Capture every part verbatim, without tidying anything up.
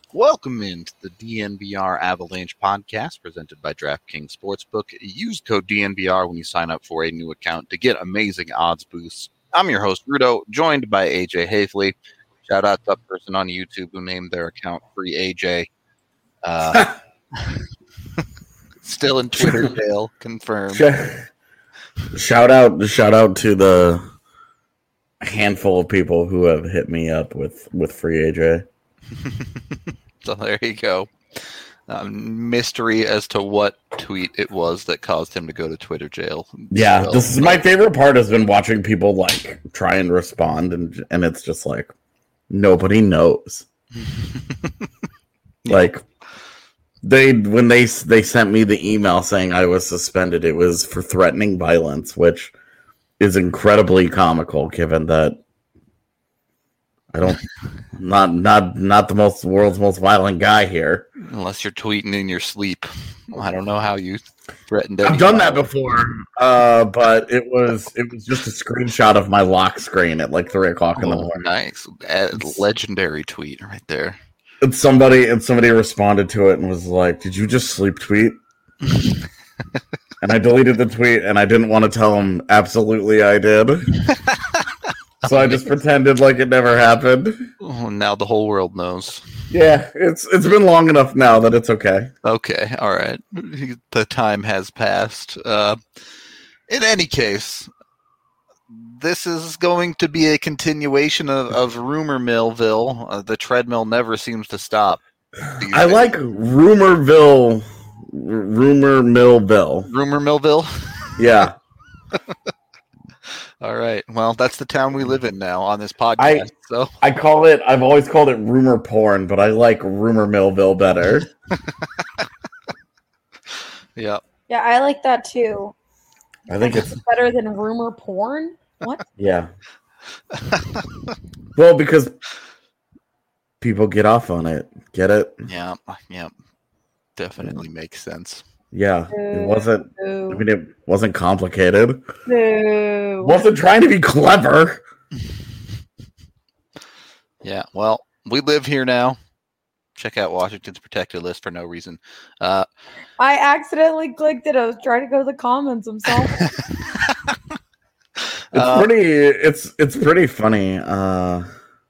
Welcome into the D N V R Avalanche podcast presented by DraftKings Sportsbook. Use code D N V R when you sign up for a new account to get amazing odds boosts. I'm your host, Rudo, joined by A J Hafley. Shout out to that person on YouTube who named their account Free A J. Uh, still in Twitter jail, confirmed. Shout out, shout out to the handful of people who have hit me up with, with Free A J. So there you go. Um, mystery as to what tweet it was that caused him to go to Twitter jail. Yeah, so, this is my favorite part has been watching people like try and respond, and and it's just like nobody knows. Yeah. Like they when they they sent me the email saying I was suspended, it was for threatening violence, which is incredibly comical given that I don't not not not the most world's most violent guy here. Unless you're tweeting in your sleep. I don't know how you threatened. I've done that before, uh, but it was it was just a screenshot of my lock screen at like three o'clock in the Oh, morning. nice, a legendary tweet right there. And somebody and somebody responded to it and was like, "Did you just sleep tweet?" And I deleted the tweet, and I didn't want to tell him. Absolutely, I did. So I just pretended like it never happened. Oh, now the whole world knows. Yeah, it's it's been long enough now that it's okay. Okay, all right. The time has passed. Uh, in any case, this is going to be a continuation of, of Rumor Millville. Uh, the treadmill never seems to stop. I days. like Rumorville, Rumor Millville. Rumor Millville? Yeah. All right. Well, that's the town we live in now on this podcast. I, so I call it, I've always called it rumor porn, but I like Rumor Millville better. Yeah. Yeah, I like that too. I think it's better than rumor porn. What? Yeah. Well, because people get off on it. Get it? Yeah. Yeah. Definitely makes sense. Yeah, it wasn't. No. I mean, it wasn't complicated. No. Wasn't trying to be clever. Yeah, well, we live here now. Check out Washington's protected list for no reason. Uh, I accidentally clicked it. I was trying to go to the comments. I'm sorry. It's uh, pretty. It's it's pretty funny. Uh,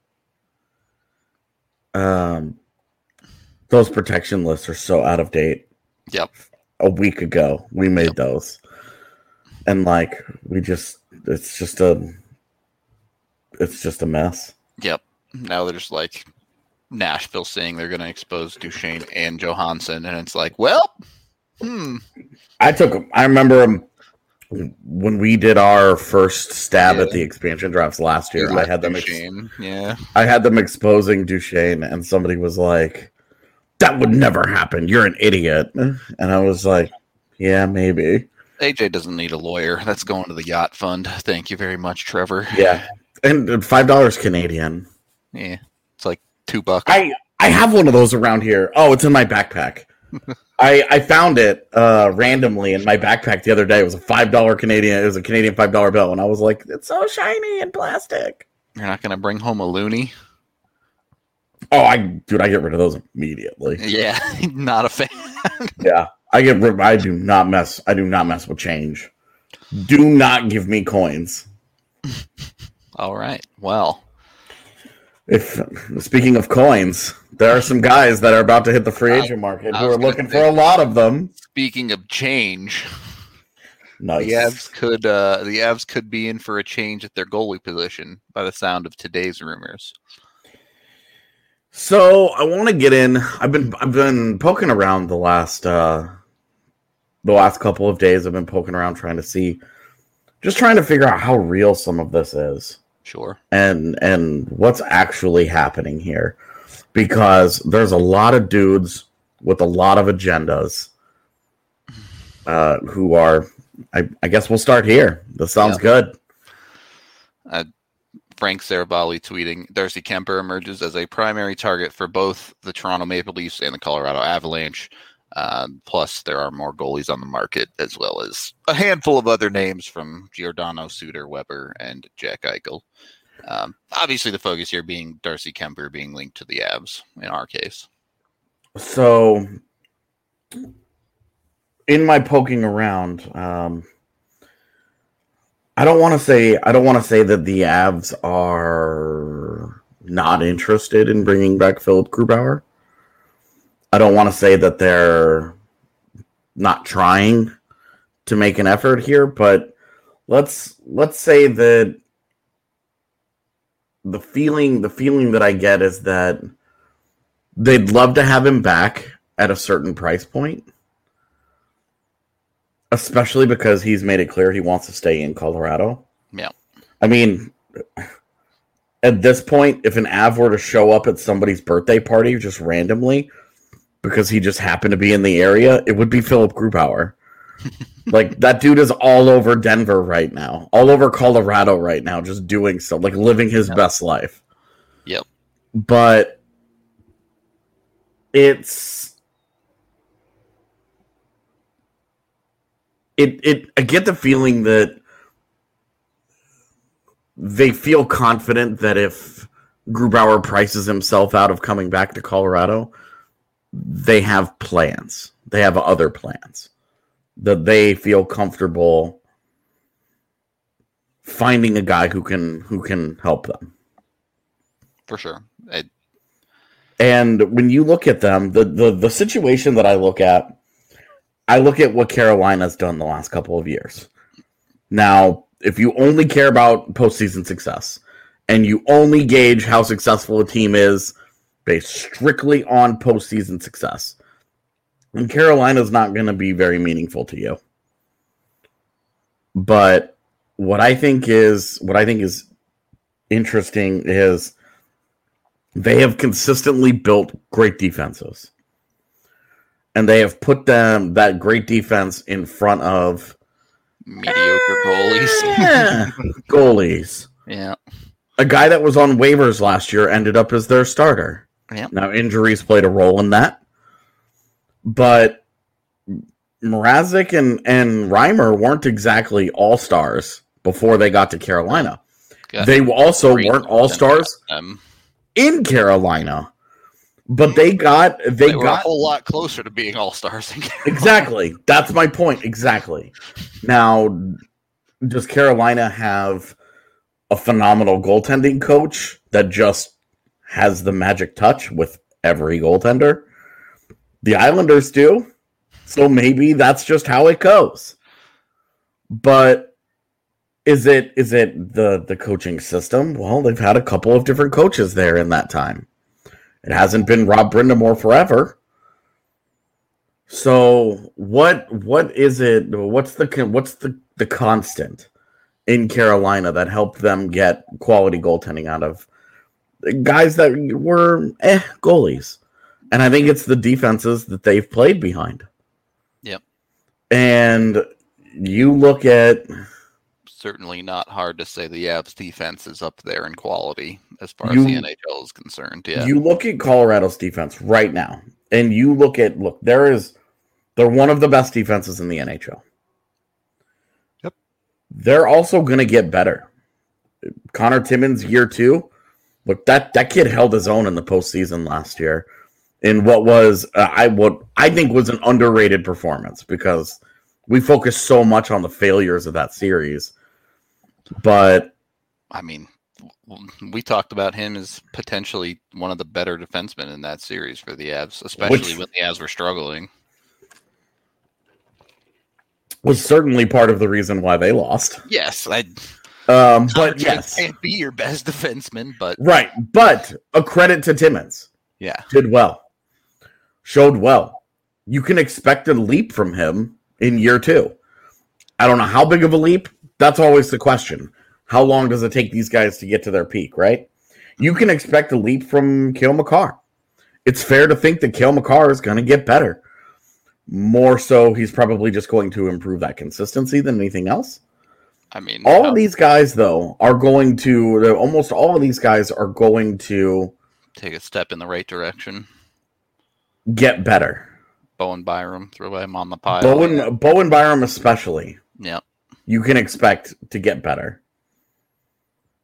um, those protection lists are so out of date. Yep. A week ago, we made Yep. those, and like we just, it's just a, it's just a mess. Yep. Now there's like Nashville saying they're going to expose Duchesne and Johansson, and it's like, well, hmm. I took. I remember when we did our first stab Yeah. at the expansion drafts last year. I had them. Ex- Duchesne. Yeah. I had them exposing Duchesne, and somebody was like, "That would never happen. You're an idiot." And I was like, "Yeah, maybe." A J doesn't need a lawyer. That's going to the yacht fund. Thank you very much, Trevor. Yeah, and five dollars Canadian. Yeah. It's like two bucks. I I have one of those around here. Oh, it's in my backpack. I I found it uh, randomly in my backpack the other day. It was a five dollar Canadian. It was a Canadian five dollar bill, and I was like, "It's so shiny and plastic." You're not going to bring home a loony? Oh, I dude, I get rid of those immediately. Yeah. Not a fan. Yeah, I get. rid- I do not mess. I do not mess with change. Do not give me coins. All right. Well. If speaking of coins, there are some guys that are about to hit the free agent market I who was are gonna looking say- for a lot of them. Speaking of change, Nice. the Avs could uh, the Avs could be in for a change at their goalie position by the sound of today's rumors. So I want to get in. I've been I've been poking around the last uh, the last couple of days. I've been poking around trying to see, just trying to figure out how real some of this is. Sure. and and what's actually happening here, because there's a lot of dudes with a lot of agendas uh, who are. I, I guess we'll start here. This sounds Yeah. good. Uh, Frank Saravalli tweeting, Darcy Kemper emerges as a primary target for both the Toronto Maple Leafs and the Colorado Avalanche. Uh, plus, there are more goalies on the market, as well as a handful of other names from Giordano, Suter, Weber, and Jack Eichel. Um, obviously, the focus here being Darcy Kemper being linked to the Avs in our case. So, in my poking around, um, I don't want to say I don't want to say that the Avs are not interested in bringing back Philip Grubauer. I don't want to say that they're not trying to make an effort here, but let's let's say that the feeling the feeling that I get is that they'd love to have him back at a certain price point, especially because he's made it clear he wants to stay in Colorado. Yeah. I mean, at this point, if an Av were to show up at somebody's birthday party just randomly because he just happened to be in the area, it would be Philip Grubauer. Like, that dude is all over Denver right now, all over Colorado right now, just doing so, like living his Yep. best life. Yep. But it's it it I get the feeling that they feel confident that if Grubauer prices himself out of coming back to Colorado, they have plans. They have other plans that they feel comfortable finding a guy who can who can help them. For sure. I, And when you look at them, the, the, the situation that I look at, I look at what Carolina's done the last couple of years. Now, if you only care about postseason success, and you only gauge how successful a team is based strictly on postseason success, then Carolina's not going to be very meaningful to you. But what I think is what I think is interesting is they have consistently built great defenses. And they have put them that great defense in front of mediocre goalies. eh, goalies. Yeah. A guy that was on waivers last year ended up as their starter. Yep. Now, injuries played a role in that. But Mrazek and, and Reimer weren't exactly all-stars before they got to Carolina. Got They also great weren't all-stars Um, in Carolina. But they got they, they were a got whole lot closer to being all stars. exactly. That's my point. Exactly. Now, does Carolina have a phenomenal goaltending coach that just has the magic touch with every goaltender? The Islanders do. So maybe that's just how it goes. But is it is it the, the coaching system? Well, they've had a couple of different coaches there in that time. It hasn't been Rob Brindamore forever. So what what is it? What's the what's the, the constant in Carolina that helped them get quality goaltending out of guys that were eh goalies? And I think it's the defenses that they've played behind. Yep. And you look at Certainly not hard to say the Avs defense is up there in quality as far You- as the N H L is concerned. Yeah. You look at Colorado's defense right now, and you look at look, there is they're one of the best defenses in the N H L. Yep. They're also gonna get better. Connor Timmins year two. Look, that, that kid held his own in the postseason last year in what was uh, I what I think was an underrated performance because we focused so much on the failures of that series. But I mean, we talked about him as potentially one of the better defensemen in that series for the Avs, especially Which- when the Avs were struggling. was certainly part of the reason why they lost. Yes, I. Um, but yes, can't be your best defenseman, but right. But a credit to Timmins. yeah, Did well. Showed well. You can expect a leap from him in year two. I don't know how big of a leap. That's always the question. How long does it take these guys to get to their peak, right? You can expect a leap from Cale Makar. It's fair to think that Cale Makar is going to get better. More so, he's probably just going to improve that consistency than anything else. I mean, All how- of these guys, though, are going to, almost all of these guys are going to take a step in the right direction. get better. Bowen Byram, throw him on the pile. Bowen, Bowen Byram especially, Yeah. you can expect to get better.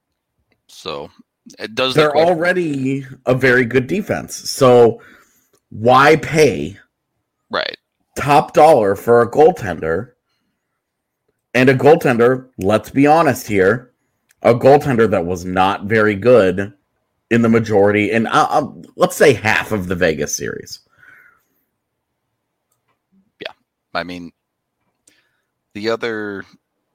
So it does. the They're question- already a very good defense. So why pay right top dollar for a goaltender? And a goaltender, let's be honest here, a goaltender that was not very good in the majority, and uh, uh, let's say half of the Vegas series. Yeah. I mean, the other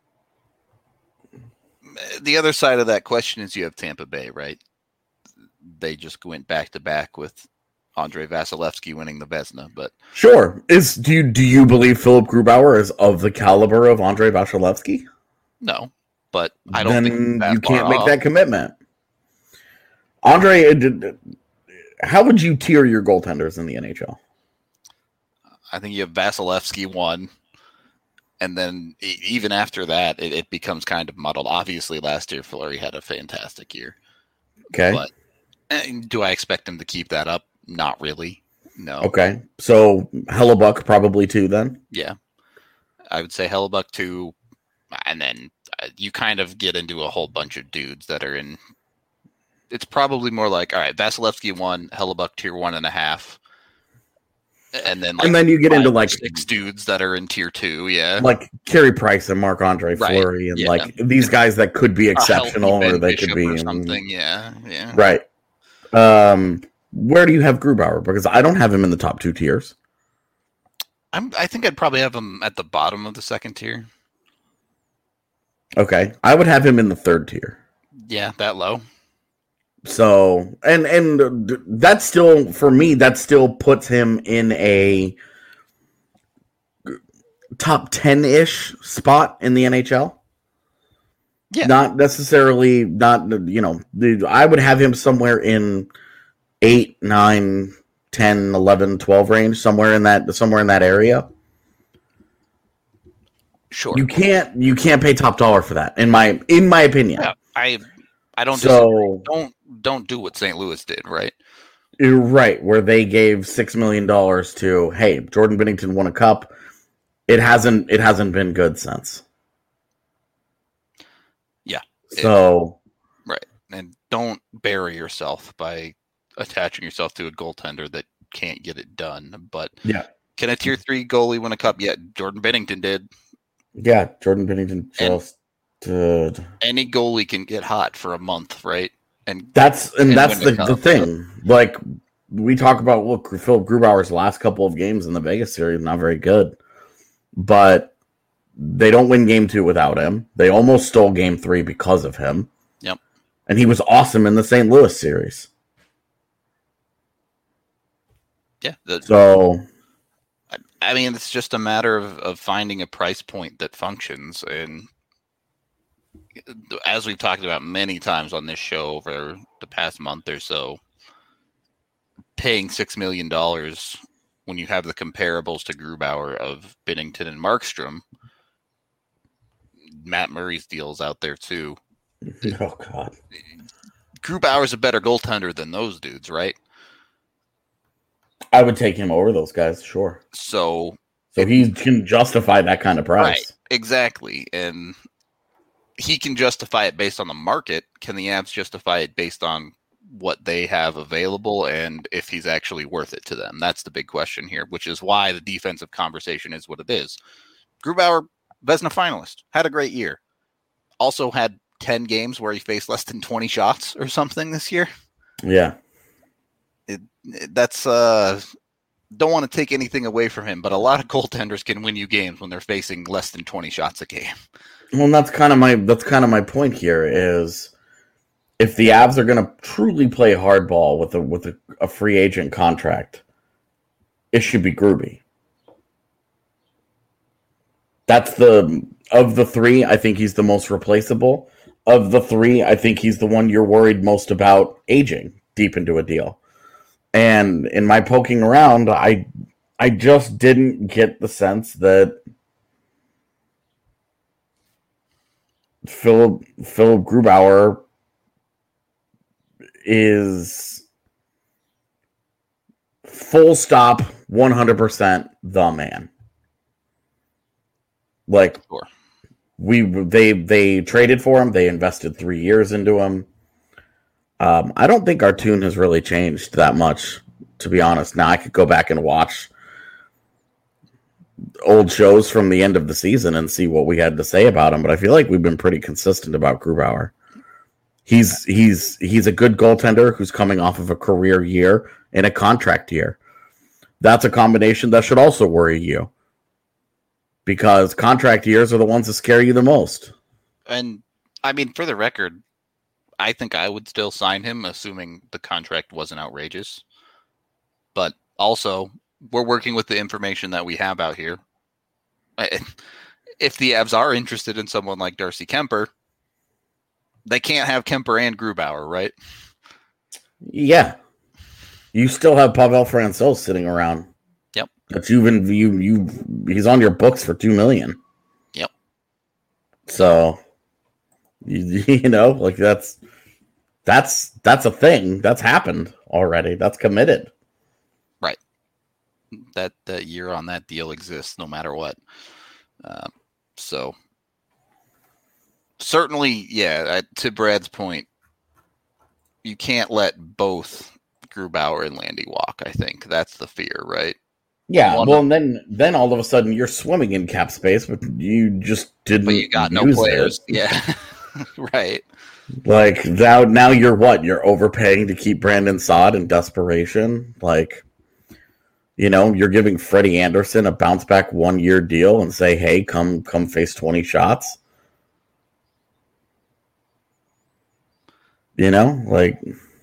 the other side of that question is you have Tampa Bay, right? They just went back to back with Andrei Vasilevsky winning the Vezina, but sure. Is do you do you believe Philip Grubauer is of the caliber of Andrei Vasilevsky? No, but I don't then think that you can't far make off. that commitment. Andre, how would you tier your goaltenders in the N H L? I think you have Vasilevsky one, and then even after that, it, it becomes kind of muddled. Obviously, last year Fleury had a fantastic year. Okay, but do I expect him to keep that up? Not really. No. Okay, so Hellebuck probably two then. Yeah, I would say Hellebuck two, and then you kind of get into a whole bunch of dudes that are in. It's probably more like, all right, Vasilevsky one, Hellebuck tier one and a half, and then like and then you get into like six dudes that are in tier two, yeah, like Carey Price and Marc-Andre Right, Fleury, and yeah. like these guys that could be A healthy exceptional Ben or they Bishop could be or something, yeah, yeah. right. Um, where do you have Grubauer? Because I don't have him in the top two tiers. I'm, I think I'd probably have him at the bottom of the second tier. Okay, I would have him in the third tier. Yeah, that low. So, and and that's still, for me, that still puts him in a top ten-ish spot in the N H L. Yeah. Not necessarily, not, you know, I would have him somewhere in eight, nine, ten, eleven, twelve range, somewhere in that, somewhere in that area. Sure. You can't, you can't pay top dollar for that, in my, in my opinion. Yeah, I, I don't So, disagree. Don't, don't do what Saint Louis did, right? You're right, where they gave six million dollars to, hey, Jordan Binnington won a cup. It hasn't it hasn't been good since. Yeah. So It, right. And don't bury yourself by attaching yourself to a goaltender that can't get it done. But yeah. Can a tier three goalie win a cup? Yeah, Jordan Binnington did. Yeah, Jordan Binnington just and did. Any goalie can get hot for a month, right? And That's and, and that's the, the thing. Like we talk about, look, Philip Grubauer's last couple of games in the Vegas series not very good, but they don't win game two without him. They almost stole game three because of him. Yep, and he was awesome in the Saint Louis series. Yeah. The, so, I, I mean, it's just a matter of, of finding a price point that functions. And as we've talked about many times on this show over the past month or so, paying six million dollars when you have the comparables to Grubauer of Binnington and Markstrom, Matt Murray's deal's out there too. Oh God, Grubauer's a better goaltender than those dudes, right? I would take him over those guys, sure. So, so he can justify that kind of price, right? Exactly, and he can justify it based on the market. Can the Avs justify it based on what they have available and if he's actually worth it to them? That's the big question here, which is why the defensive conversation is what it is. Grubauer, Vezina finalist, had a great year. Also had ten games where he faced less than twenty shots or something this year. Yeah. It, it, that's uh don't want to take anything away from him, but a lot of goaltenders can win you games when they're facing less than twenty shots a game. Well, and that's kind of my that's kind of my point here is if the Avs are going to truly play hardball with a with a, a free agent contract, it should be Gruby. That's the of the three. I think he's the most replaceable. Of the three, I think he's the one you're worried most about aging deep into a deal. And in my poking around, I I just didn't get the sense that Philip Philip Grubauer is full stop one hundred percent the man. Like Sure. we they they traded for him, they invested three years into him. Um, I don't think our tune has really changed that much to be honest. Now I could go back and watch old shows from the end of the season and see what we had to say about him, but I feel like we've been pretty consistent about Grubauer. He's he's he's a good goaltender who's coming off of a career year and a contract year. That's a combination that should also worry you, because contract years are the ones that scare you the most. And I mean, for the record, I think I would still sign him, assuming the contract wasn't outrageous. But also, we're working with the information that we have out here. If the Avs are interested in someone like Darcy Kuemper, they can't have Kuemper and Grubauer, right? Yeah. You still have Pavel Francouz sitting around. Yep. But you've been you you he's on your books for two million. Yep. So you, you know, like that's that's that's a thing. That's happened already. That's committed. Right. That that year on that deal exists no matter what. Um, so certainly, yeah, to Brad's point, you can't let both Grubauer and Landy walk, I think. That's the fear, right? Yeah, One well, of, and then then all of a sudden you're swimming in cap space, but you just didn't but you got no use players. it. Yeah, right. Like, now, now you're what? You're overpaying to keep Brandon Saad in desperation? Like, you know, you're giving Freddie Anderson a bounce-back one-year deal and say, hey, come come face twenty shots? You know, like...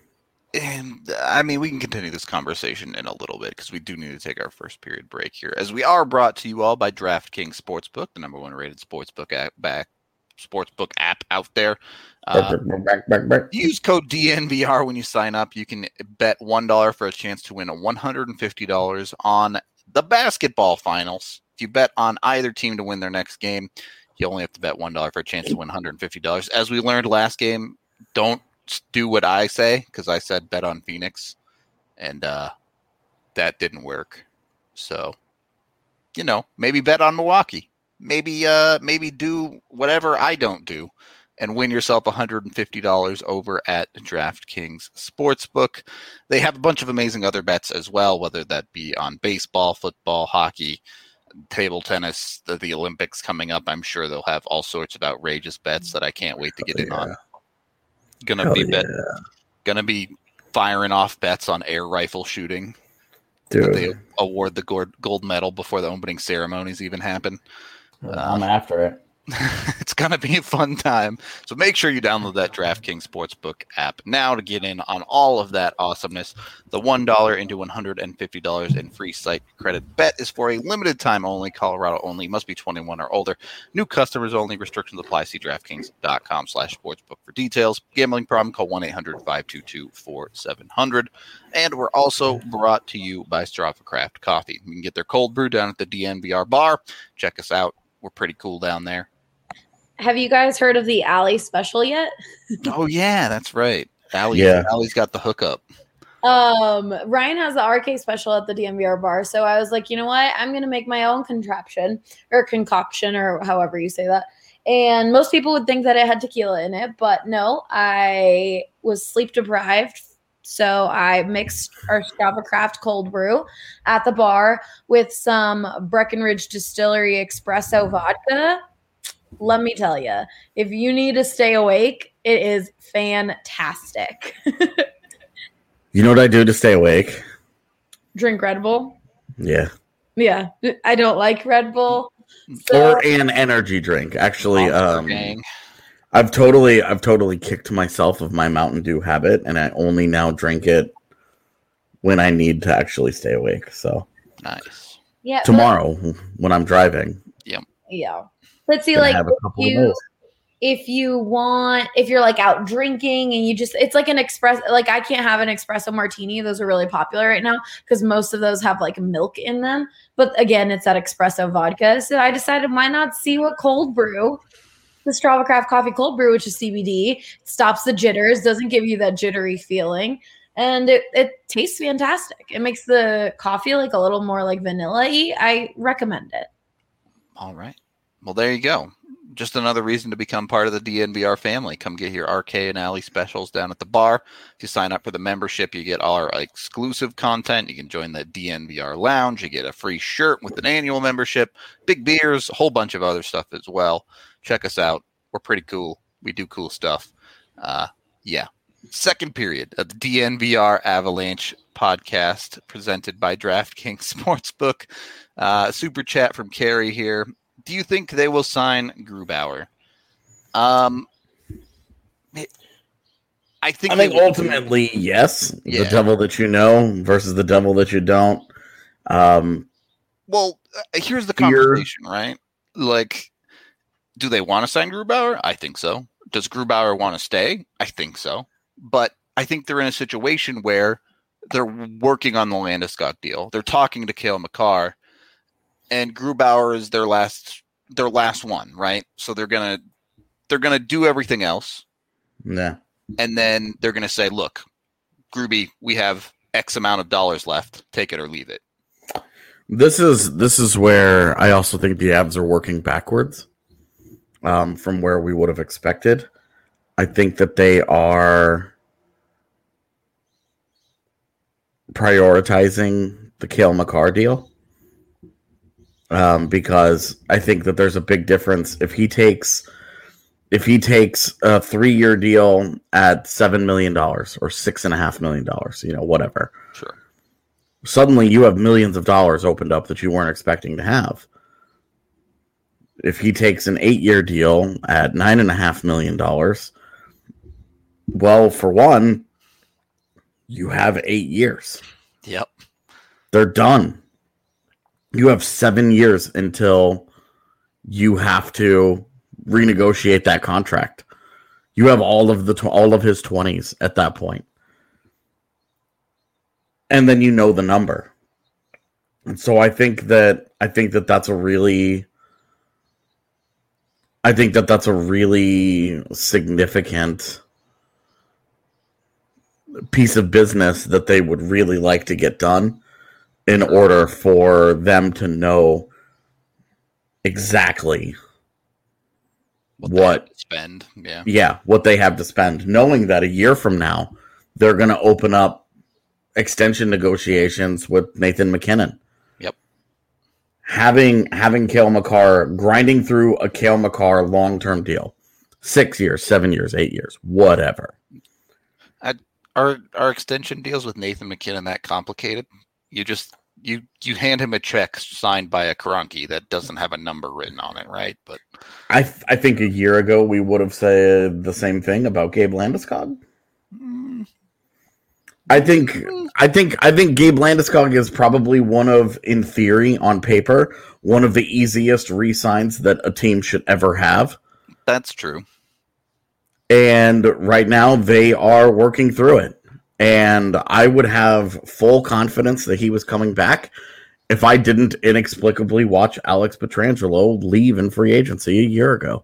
And I mean, we can continue this conversation in a little bit because we do need to take our first period break here, as we are brought to you all by DraftKings Sportsbook, the number one rated sportsbook app, back, sportsbook app out there. Uh, back, back, back. Use code D N V R when you sign up. You can bet one dollar for a chance to win one hundred fifty dollars on the basketball finals. If you bet on either team to win their next game, you only have to bet one dollar for a chance to win one hundred fifty dollars. As we learned last game, don't do what I say, because I said bet on Phoenix, and uh, that didn't work. So, you know, maybe bet on Milwaukee. Maybe uh, maybe do whatever I don't do and win yourself one hundred fifty dollars over at DraftKings Sportsbook. They have a bunch of amazing other bets as well, whether that be on baseball, football, hockey, table tennis, the, the Olympics coming up. I'm sure they'll have all sorts of outrageous bets that I can't wait to get in yeah. on. Gonna Hell be yeah. bet, gonna be firing off bets on air rifle shooting. Dude. They award the gold, gold medal before the opening ceremonies even happen. I'm uh, after it. It's going to be a fun time. So make sure you download that DraftKings Sportsbook app now to get in on all of that awesomeness. The one dollar into one hundred fifty dollars in free site credit bet is for a limited time only. Colorado only. Must be twenty-one or older. New customers only. Restrictions apply. See DraftKings.com slash sportsbook for details. Gambling problem? Call one eight hundred five two two four seven zero zero. And we're also brought to you by Strava Craft Coffee. You can get their cold brew down at the D N V R bar. Check us out. We're pretty cool down there. Have you guys heard of the Alley special yet? Oh yeah, that's right. Allie, Yeah. Allie's got the hookup. Um, Ryan has the R K special at the D M V R bar, so I was like, you know what? I'm gonna make my own contraption or concoction or however you say that. And most people would think that it had tequila in it, but no, I was sleep deprived. So I mixed our Strava Craft cold brew at the bar with some Breckenridge Distillery espresso vodka. Let me tell you, if you need to stay awake, it is fantastic. You know what I do to stay awake? Drink Red Bull. Yeah. Yeah, I don't like Red Bull. So, Or an energy drink. Actually, Monster um, Gang. I've totally, I've totally kicked myself of my Mountain Dew habit, and I only now drink it when I need to actually stay awake. So Nice. yeah, but- tomorrow, when I'm driving, yeah. But see, gonna like have a if couple of you, those. if you want, if you're like out drinking and you just, it's like an express, like I can't have an espresso martini. Those are really popular right now because most of those have like milk in them. But again, it's that espresso vodka. So I decided why not see what cold brew, the Strava Craft Coffee Cold Brew, which is C B D, stops the jitters, doesn't give you that jittery feeling. And it, it tastes fantastic. It makes the coffee like a little more like vanilla-y. I recommend it. All right. Well, there you go. just another reason to become part of the D N V R family. Come get your R K and Alley specials down at the bar. If you sign up for the membership, you get all our exclusive content. You can join the D N V R lounge. You get a free shirt with an annual membership, big beers, a whole bunch of other stuff as well. Check us out. We're pretty cool. We do cool stuff. Uh, yeah. Second period of the D N V R Avalanche podcast presented by DraftKings Sportsbook. Uh, super chat from Carrie here. Do you think they will sign Grubauer? Um, I think. I think ultimately, yes. Yeah. The devil that you know versus the devil that you don't. Um, well, uh, here's the here- conversation, right? Like, do they want to sign Grubauer? I think so. Does Grubauer want to stay? I think so. But I think they're in a situation where they're working on the Landeskog deal. They're talking to Cale Makar. And Grubauer is their last their last one, right? So they're gonna they're gonna do everything else, yeah. and then they're gonna say, "Look, Gruby, we have X amount of dollars left. Take it or leave it." This is this is where I also think the Avs are working backwards um, from where we would have expected. I think that they are prioritizing the Cale Makar deal. Um, because I think that there's a big difference if he takes if he takes a three-year deal at seven million dollars or six and a half million dollars, you know, whatever. Sure. Suddenly, you have millions of dollars opened up that you weren't expecting to have. If he takes an eight-year deal at nine and a half million dollars, well, for one, you have eight years. Yep. They're done. You have seven years until you have to renegotiate that contract. You have all of the tw- all of his twenties at that point, and then you know the number. And so I think that I think that that's a really, I think that that's a really significant piece of business that they would really like to get done, in order for them to know exactly What, what spend? Yeah. yeah, what they have to spend, knowing that a year from now they're going to open up extension negotiations with Nathan McKinnon. Yep. Having having Cale Makar, grinding through a Cale Makar long-term deal, six years, seven years, eight years, whatever. I, are are extension deals with Nathan McKinnon that complicated? You just you you hand him a check signed by a Karanki that doesn't have a number written on it, right? But I th- I think a year ago we would have said the same thing about Gabe Landeskog. mm, I think I think I think Gabe Landeskog is probably one of, in theory, on paper, one of the easiest re-signs that a team should ever have. that's true. And right now they are working through it. And I would have full confidence that he was coming back if I didn't inexplicably watch Alex Pietrangelo leave in free agency a year ago.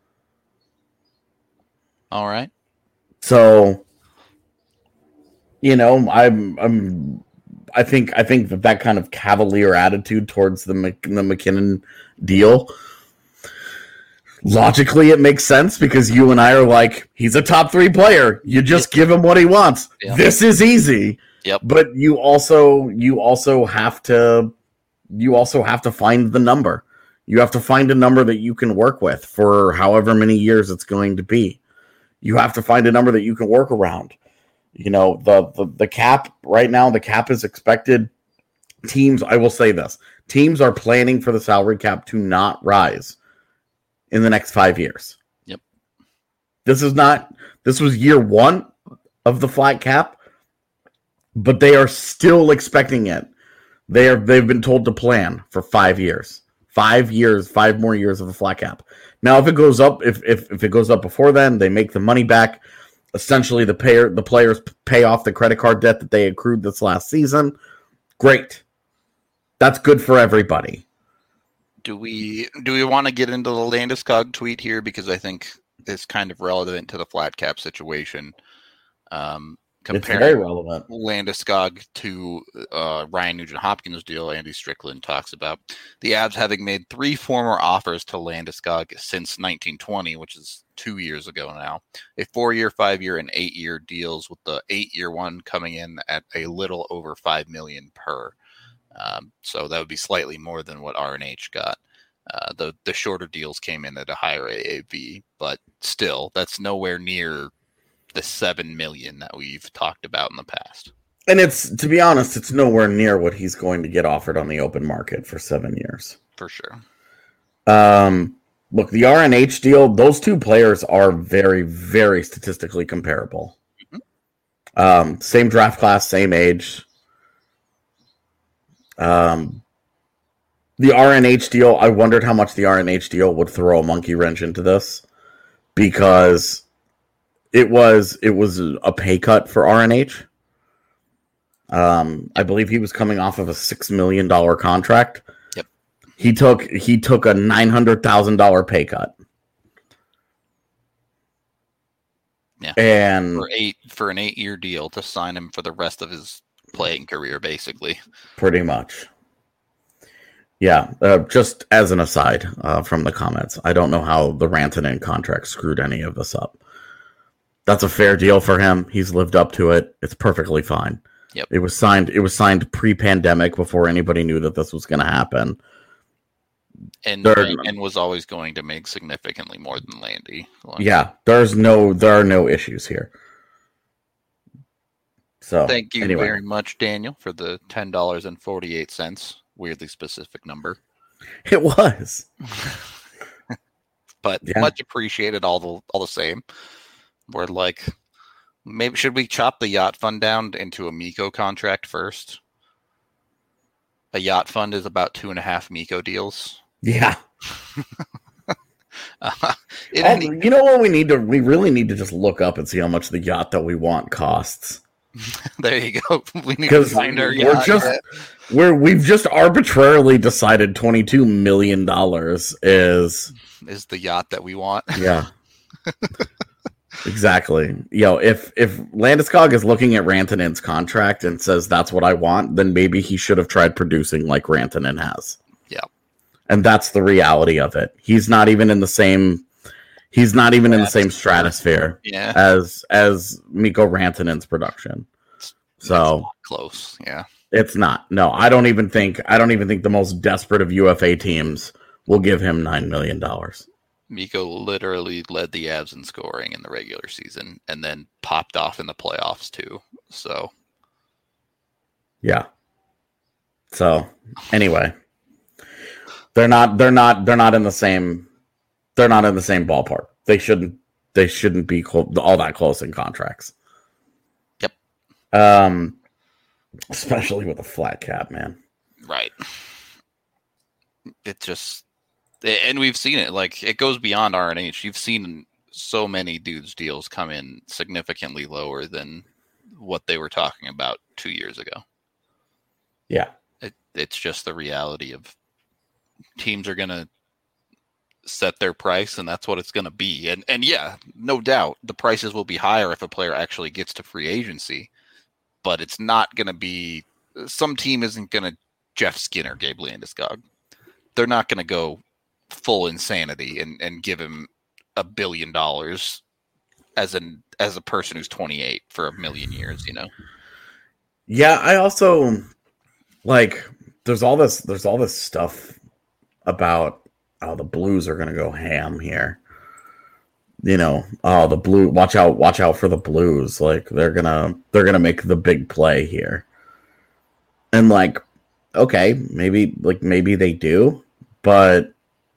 All right. So, you know, I'm, I'm, I think, I think that that kind of cavalier attitude towards the Mc, the McKinnon deal, logically it makes sense because you and I are like, he's a top three player. You just give him what he wants. Yep. This is easy. Yep. But you also, you also have to, you also have to find the number. You have to find a number that you can work with for however many years it's going to be. You have to find a number that you can work around. You know, the, the, the cap right now, the cap is expected. Teams, I will say this, teams are planning for the salary cap to not rise in the next five years. Yep. This is not, this was year one of the flat cap, but they are still expecting it. They are, they've been told to plan for five years. Five years, five more years of a flat cap. Now, if it goes up, if if, if it goes up before then, they make the money back. Essentially, the payer, the players pay off the credit card debt that they accrued this last season. Great. That's good for everybody. Do we do we want to get into the Landeskog tweet here because I think it's kind of relevant to the flat cap situation. Um, comparing very relevant. Landeskog to uh, Ryan Nugent-Hopkins' deal, Andy Strickland talks about the Avs having made three former offers to Landeskog since nineteen twenty, which is two years ago now. A four-year, five-year, and eight-year deals, with the eight-year one coming in at a little over five million dollars per. Um, so that would be slightly more than what R N H got. Uh, the the shorter deals came in at a higher A A V, but still, that's nowhere near the seven million that we've talked about in the past. And it's, to be honest, it's nowhere near what he's going to get offered on the open market for seven years. For sure. Um, look, the R N H deal, those two players are very, very statistically comparable. Mm-hmm. Um, same draft class, same age. Um, the R N H deal, I wondered how much the R N H deal would throw a monkey wrench into this, because It was it was a pay cut for R N H. Um, I believe he was coming off of a six million dollar contract. Yep. He took he took a nine hundred thousand dollar pay cut. Yeah. And for eight for an eight year deal to sign him for the rest of his playing career, basically. Pretty much. Yeah. Uh, just as an aside uh, from the comments, I don't know how the Rantanen contract screwed any of this up. That's a fair deal for him. He's lived up to it. It's perfectly fine. Yep. It was signed. It was signed pre-pandemic, before anybody knew that this was going to happen. And there, and was always going to make significantly more than Landy. Yeah, there's no, there are no issues here. So thank you anyway. very much, Daniel, for the ten dollars and forty eight cents. Weirdly specific number. It was, but yeah. Much appreciated. All the all the same. We're like, maybe should we chop the yacht fund down into a Mikko contract first? A yacht fund is about two and a half Mikko deals. Yeah. uh, oh, any- you know what we need to? We really need to just look up and see how much the yacht that we want costs. There you go. We need to find our we're yacht. Just, we're we've just arbitrarily decided twenty-two million dollars is is the yacht that we want. Yeah. Exactly. Yo, if if Landeskog is looking at Rantanen's contract and says that's what I want, then maybe he should have tried producing like Rantanen has. Yeah. And that's the reality of it. He's not even in the same he's not even in the same stratosphere yeah. as as Mikko Rantanen's production. So close, yeah. It's not. No, I don't even think I don't even think the most desperate of U F A teams will give him nine million dollars. Mikko literally led the Avs in scoring in the regular season and then popped off in the playoffs too. So, yeah. So, anyway, they're not they're not they're not in the same they're not in the same ballpark. They shouldn't they shouldn't be clo- all that close in contracts. Yep. Um especially with a flat cap, man. Right. It just And we've seen it. Like, it goes beyond R N H. You've seen so many dudes' deals come in significantly lower than what they were talking about two years ago. Yeah. It, it's just the reality of teams are going to set their price, and that's what it's going to be. And, and yeah, no doubt, the prices will be higher if a player actually gets to free agency. But it's not going to be – some team isn't going to Jeff Skinner Gabe Landeskog. They're not going to go – full insanity and, and give him a billion dollars as an as a person who's twenty-eight for a million years, you know. Yeah, I also like there's all this there's all this stuff about oh the Blues are gonna go ham here. You know, oh the blue watch out watch out for the Blues. Like they're gonna they're gonna make the big play here. And like, okay, maybe like maybe they do, but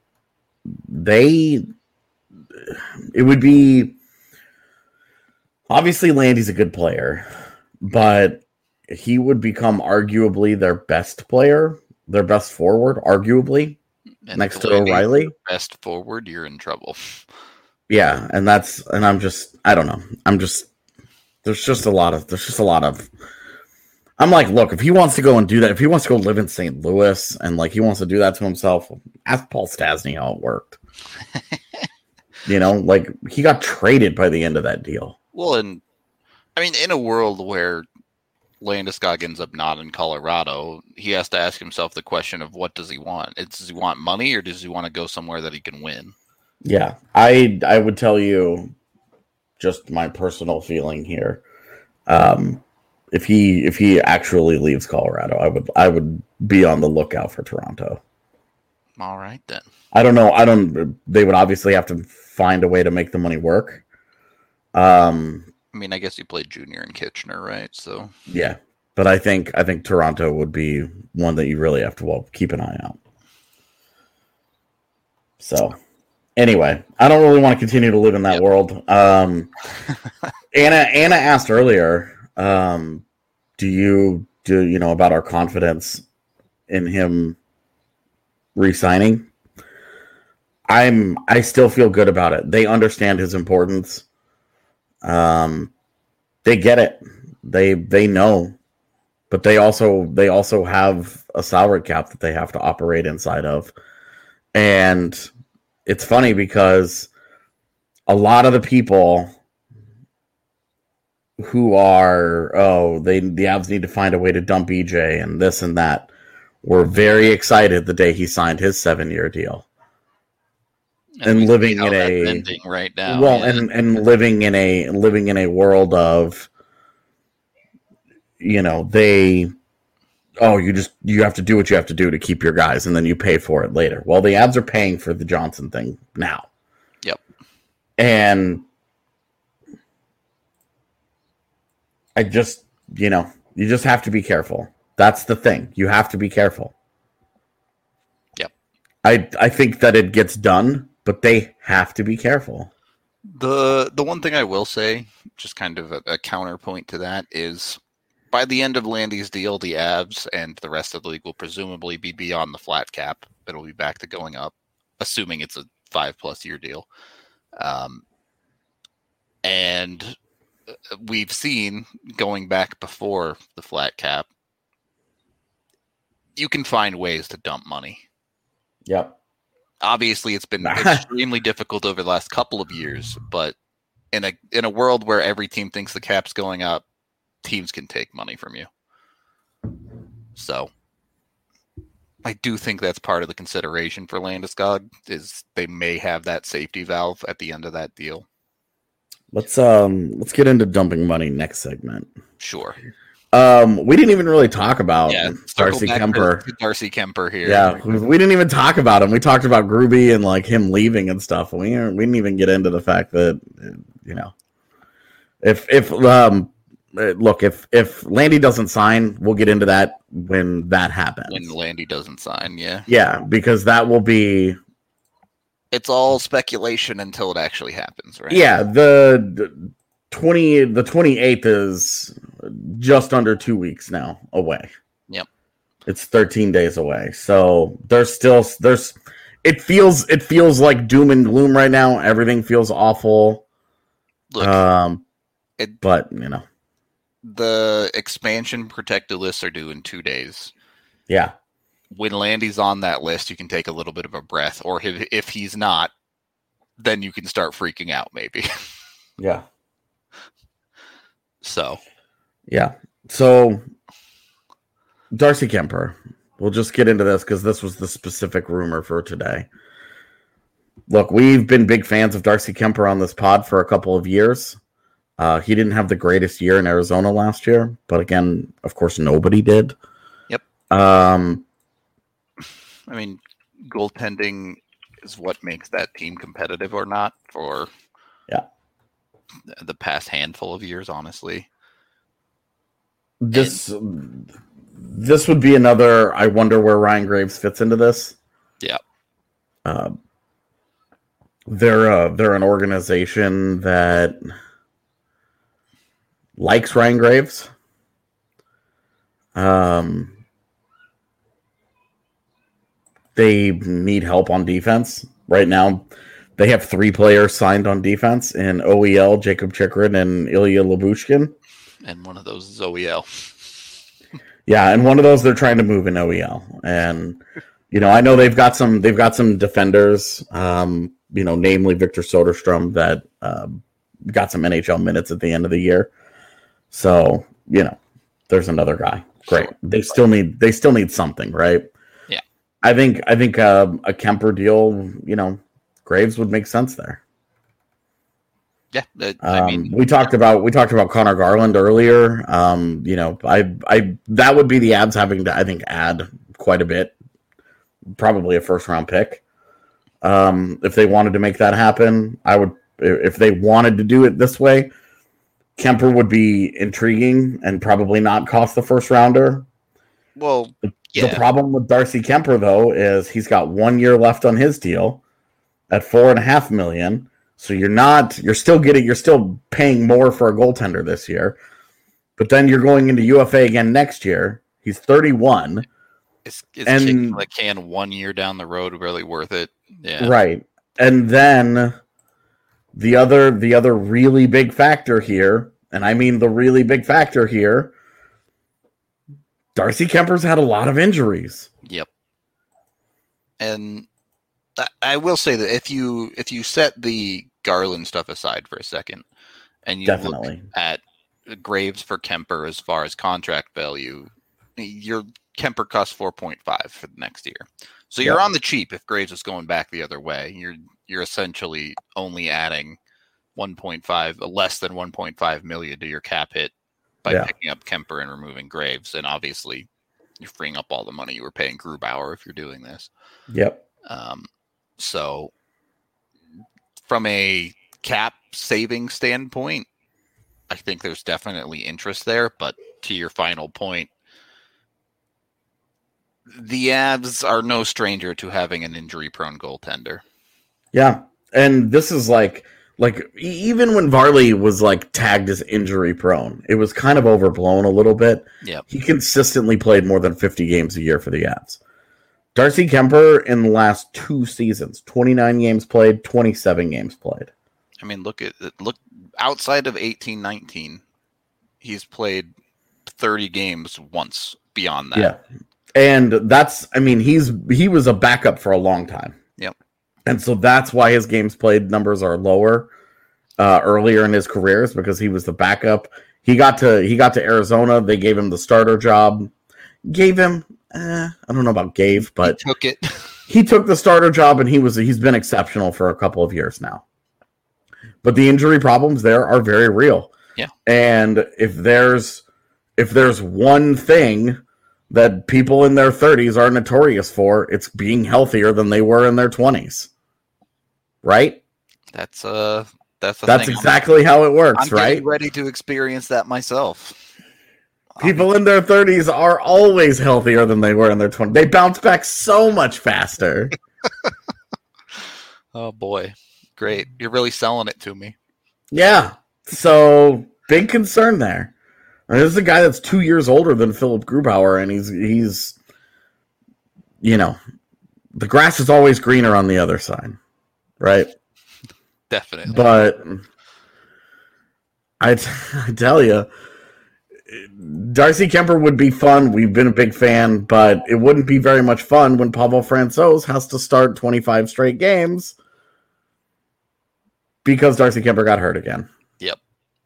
they it would be obviously Landy's a good player, but he would become arguably their best player, their best forward, arguably, and next to O'Reilly. Best forward, you're in trouble. Yeah, and that's and I'm just I don't know. I'm just there's just a lot of there's just a lot of I'm like, look, if he wants to go and do that, if he wants to go live in Saint Louis and like he wants to do that to himself, ask Paul Stastny how it worked. You know, like he got traded by the end of that deal. Well, and I mean, in a world where Landeskog ends up not in Colorado, he has to ask himself the question of what does he want? Does he want money or does he want to go somewhere that he can win? Yeah, I I would tell you just my personal feeling here. Um, if he if he actually leaves Colorado, I would I would be on the lookout for Toronto. All right then. I don't know. I don't. They would obviously have to find a way to make the money work. Um, I mean, I guess you played junior in Kitchener, right? So yeah, but I think I think Toronto would be one that you really have to well keep an eye out. So. Anyway, I don't really want to continue to live in that yep. world. Um, Anna Anna asked earlier, um, do you do you know about our confidence in him re-signing? I'm I still feel good about it. They understand his importance. Um, they get it. They they know, but they also they also have a salary cap that they have to operate inside of, and it's funny because a lot of the people who are, oh, they the Avs need to find a way to dump E J and this and that were very excited the day he signed his seven-year deal. And, and living in a right now, well, yeah. and, and living in a living in a world of, you know, they. Oh, you just you have to do what you have to do to keep your guys, and then you pay for it later. Well, the Avs are paying for the Johnson thing now. Yep. And I just, you know, you just have to be careful. That's the thing. You have to be careful. Yep. I I think that it gets done, but they have to be careful. The the one thing I will say, just kind of a, a counterpoint to that, is by the end of Landy's deal, the Avs and the rest of the league will presumably be beyond the flat cap. It'll be back to going up, assuming it's a five-plus year deal. Um, and we've seen, going back before the flat cap, you can find ways to dump money. Yep. Obviously, it's been extremely difficult over the last couple of years, but in a in a world where every team thinks the cap's going up, teams can take money from you. So I do think that's part of the consideration for Landeskog, is they may have that safety valve at the end of that deal. Let's um let's get into dumping money next segment. Sure. Um, we didn't even really talk about yeah, Darcy Kemper. Darcy Kemper here. Yeah, we, we didn't even talk about him. We talked about Gruby and like him leaving and stuff. We we didn't even get into the fact that, you know, if if um look if if Landy doesn't sign, we'll get into that when that happens. When Landy doesn't sign, yeah, yeah, because that will be. It's all speculation until it actually happens, right? Yeah, the. the Twenty the twenty eighth is just under two weeks now away. Yep, it's thirteen days away. So there's still there's it feels it feels like doom and gloom right now. Everything feels awful. Look, um, it, but you know, the expansion protected lists are due in two days. Yeah, when Landy's on that list, you can take a little bit of a breath, or if if he's not, then you can start freaking out, maybe. Yeah. So, yeah. So, Darcy Kemper. We'll just get into this because this was the specific rumor for today. Look, we've been big fans of Darcy Kemper on this pod for a couple of years. Uh, he didn't have the greatest year in Arizona last year, but again, of course, nobody did. Yep. Um, I mean, goaltending is what makes that team competitive or not for. Yeah. The past handful of years, honestly. This and, this would be another. I wonder where Ryan Graves fits into this. Yeah, uh, they're uh, they're an organization that likes Ryan Graves. Um, they need help on defense right now. They have three players signed on defense in O E L, Jacob Chikrin, and Ilya Lyubushkin. And one of those is O E L. Yeah, and one of those they're trying to move in O E L. And you know, I know they've got some they've got some defenders, um, you know, namely Victor Soderstrom that uh, got some N H L minutes at the end of the year. So, you know, there's another guy. Great. Sure. They still need they still need something, right? Yeah. I think I think uh, a Kemper deal, you know, Graves would make sense there. Yeah, that, I Um, mean, we talked about we talked about Connor Garland earlier. Um, you know, I I that would be the Avs having to I think add quite a bit, probably a first round pick. Um, if they wanted to make that happen, I would. If they wanted to do it this way, Kemper would be intriguing and probably not cost the first rounder. well, The, yeah, the problem with Darcy Kemper though is he's got one year left on his deal at four and a half million. So you're not, you're still getting, you're still paying more for a goaltender this year, but then you're going into U F A again next year. He's thirty-one. Is, is and- kicking the can one year down the road really worth it? Yeah, Right. And then the other, the other really big factor here, and I mean the really big factor here, Darcy Kemper's had a lot of injuries. Yep. And I, I will say that if you if you set the Garland stuff aside for a second, and you Definitely. look at Graves for Kemper as far as contract value, your Kemper costs four point five for the next year. So you're Yeah. on the cheap if Graves is going back the other way. You're you're essentially only adding one point five, less than one point five million to your cap hit by Yeah. picking up Kemper and removing Graves, and obviously you're freeing up all the money you were paying Grubauer if you're doing this. Yep. Um, so from a cap saving standpoint, I think there's definitely interest there, but to your final point, the Avs are no stranger to having an injury-prone goaltender. Yeah. And this is like, like e- even when Varley was like tagged as injury prone, it was kind of overblown a little bit. Yep. He consistently played more than fifty games a year for the Avs. Darcy Kemper in the last two seasons, twenty-nine games played, twenty-seven games played. I mean, look at look outside of eighteen nineteen, he's played thirty games once beyond that. Yeah. And that's, I mean, he's he was a backup for a long time. Yep. And so that's why his games played numbers are lower uh, earlier in his career, is because he was the backup. He got to he got to Arizona. They gave him the starter job. Gave him, eh, I don't know about gave, but He took it. he took the starter job, and he was he's been exceptional for a couple of years now. But the injury problems there are very real. Yeah. And if there's if there's one thing that people in their thirties are notorious for, it's being healthier than they were in their twenties. Right? That's uh that's the That's thing. exactly how it works, I'm right? getting ready to experience that myself. People in their thirties are always healthier than they were in their twenties. They bounce back so much faster. Oh boy. Great. You're really selling it to me. Yeah. So, big concern there. And this is a guy that's two years older than Philip Grubauer, and he's, he's, you know, the grass is always greener on the other side, right? Definitely. But I, t- I tell you, Darcy Kemper would be fun. We've been a big fan, but it wouldn't be very much fun when Pavel Francouz has to start twenty-five straight games because Darcy Kemper got hurt again. Yep.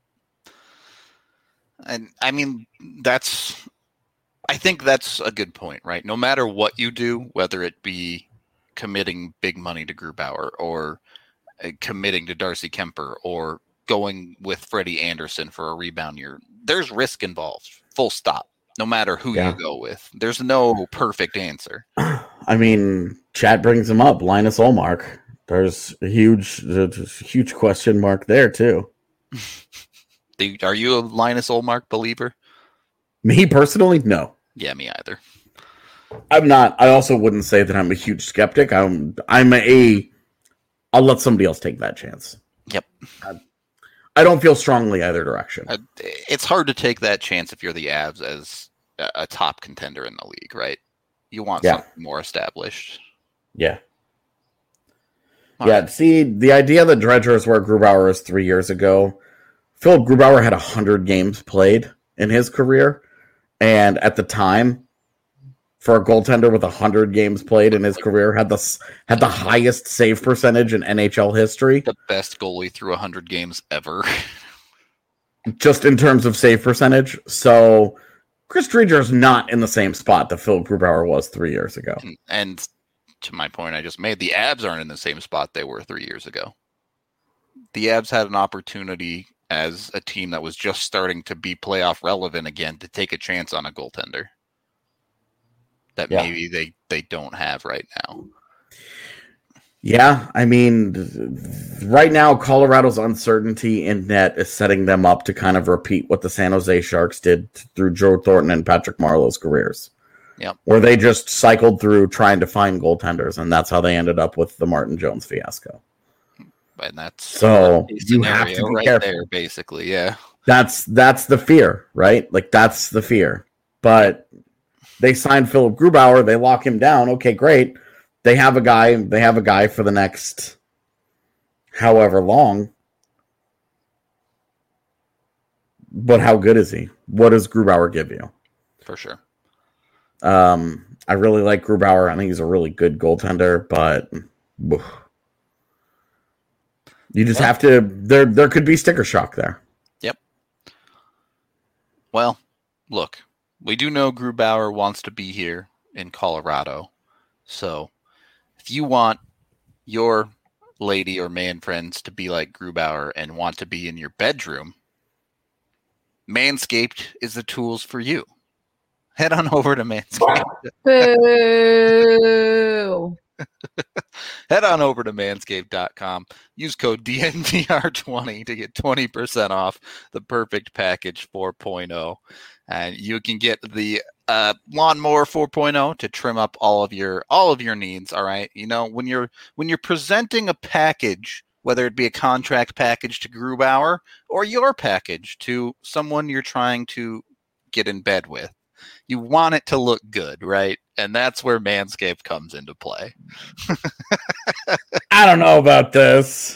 And I mean, that's, I think that's a good point, right? No matter what you do, whether it be committing big money to Grubauer or uh, committing to Darcy Kemper or going with Freddie Anderson for a rebound year, there's risk involved, full stop, no matter who Yeah. you go with. There's no perfect answer. I mean, chat brings him up, Linus Olmark. There's a huge, there's a huge question mark there, too. Do- Are you a Linus Olmark believer? Me personally, no. Yeah, me either. I'm not. I also wouldn't say that I'm a huge skeptic. I'm I'm a I'll let somebody else take that chance. Yep. I, I don't feel strongly either direction. Uh, It's hard to take that chance if you're the Avs as a a top contender in the league, right? You want Yeah. something more established. Yeah. All yeah, right. see, the idea that Dredger is where Grubauer is three years ago, Philip Grubauer had one hundred games played in his career, and at the time, for a goaltender with one hundred games played in his career, had the s- had the highest save percentage in N H L history. The best goalie through one hundred games ever. just in terms of save percentage. So Chris Driedger is not in the same spot that Philip Grubauer was three years ago. And to my point I just made, the Abs aren't in the same spot they were three years ago. The Abs had an opportunity as a team that was just starting to be playoff relevant again to take a chance on a goaltender that yeah. maybe they, they don't have right now. Yeah, I mean, right now, Colorado's uncertainty in net is setting them up to kind of repeat what the San Jose Sharks did through Joe Thornton and Patrick Marleau's careers. Yep. Where they just cycled through trying to find goaltenders, and that's how they ended up with the Martin Jones fiasco. And that's so you have to be right careful. There, basically, yeah. That's that's the fear, right? Like that's the fear. But they signed Philip Grubauer, they lock him down. Okay, great. They have a guy. They have a guy for the next however long. But how good is he? What does Grubauer give you? For sure. Um, I really like Grubauer. I think he's a really good goaltender, but oof. You just well, have to. There, there could be sticker shock there. Yep. Well, look, we do know Grubauer wants to be here in Colorado, so. If you want your lady or man friends to be like Grubauer and want to be in your bedroom, Manscaped is the tools for you. Head on over to Manscaped. Boo! Head on over to manscaped dot com. Use code D N V R twenty to get twenty percent off the Perfect Package four point oh. And you can get the uh, Lawnmower four point oh to trim up all of your all of your needs. All right, you know when you're when you're presenting a package, whether it be a contract package to Grubauer or your package to someone you're trying to get in bed with, you want it to look good, right? And that's where Manscaped comes into play. I don't know about this.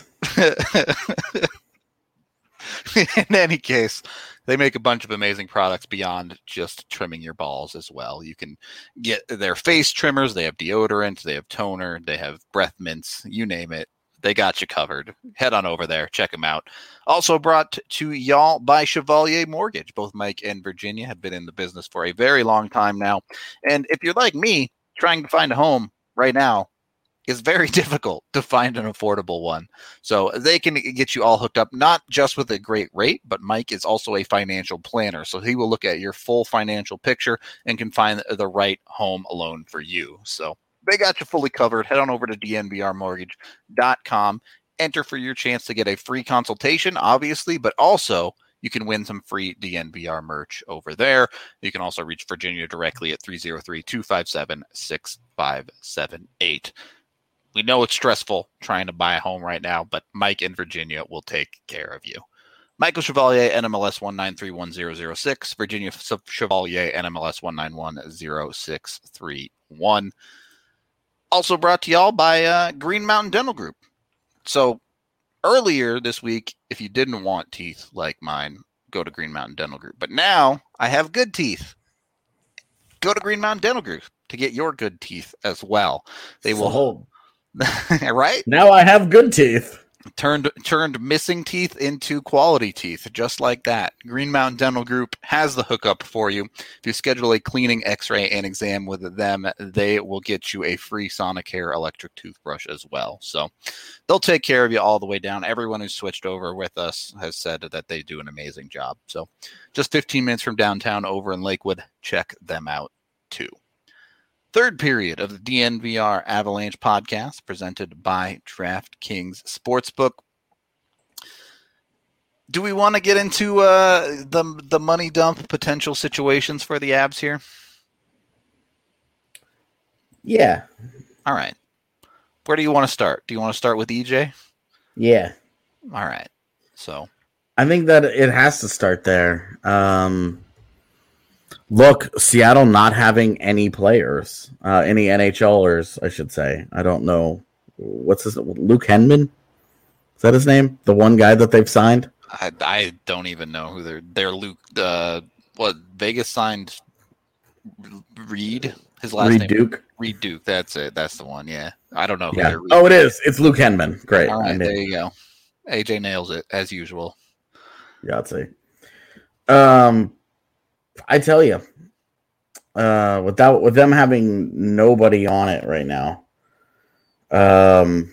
In any case, they make a bunch of amazing products beyond just trimming your balls as well. You can get their face trimmers. They have deodorant. They have toner. They have breath mints. You name it. They got you covered. Head on over there. Check them out. Also brought to y'all by Chevalier Mortgage. Both Mike and Virginia have been in the business for a very long time now. And if you're like me, trying to find a home right now is very difficult to find an affordable one. So they can get you all hooked up, not just with a great rate, but Mike is also a financial planner. So he will look at your full financial picture and can find the right home loan for you. So they got you fully covered. Head on over to D N V R mortgage dot com. Enter for your chance to get a free consultation, obviously, but also you can win some free D N V R merch over there. You can also reach Virginia directly at three oh three, two five seven, six five seven eight. We know it's stressful trying to buy a home right now, but Mike and Virginia will take care of you. Michael Chevalier, N M L S one nine three one zero zero six. Virginia Chevalier, N M L S one nine one zero six three one. Also brought to y'all by uh, Green Mountain Dental Group. So earlier this week, if you didn't want teeth like mine, go to Green Mountain Dental Group. But now I have good teeth. Go to Green Mountain Dental Group to get your good teeth as well. They will hold. Right? Now I have good teeth. Turned turned missing teeth into quality teeth, just like that. Green Mountain Dental Group has the hookup for you. If you schedule a cleaning, x-ray, and exam with them, they will get you a free Sonicare electric toothbrush as well. So they'll take care of you all the way down. Everyone who's switched over with us has said that they do an amazing job. So just fifteen minutes from downtown over in Lakewood, check them out too. Third period of the D N V R Avalanche podcast presented by DraftKings Sportsbook. Do we want to get into uh, the the money dump potential situations for the Abs here? Yeah. All right. Where do you want to start? Do you want to start with E J? Yeah. All right. So I think that it has to start there. Um, look, Seattle not having any players, uh, any NHLers, I should say. I don't know. What's his Luke Henman? Is that his name? The one guy that they've signed? I, I don't even know who they're. They're Luke. Uh, what Vegas signed? Reed. His last Reed name. Duke. Reed Duke. That's it. That's the one. Yeah. I don't know. Who Yeah. they're Oh, it is. It's Luke Henman. Great. All right. There you go. A J nails it as usual. Yeah, I'd say. Um, I tell you, uh, without with them having nobody on it right now, um,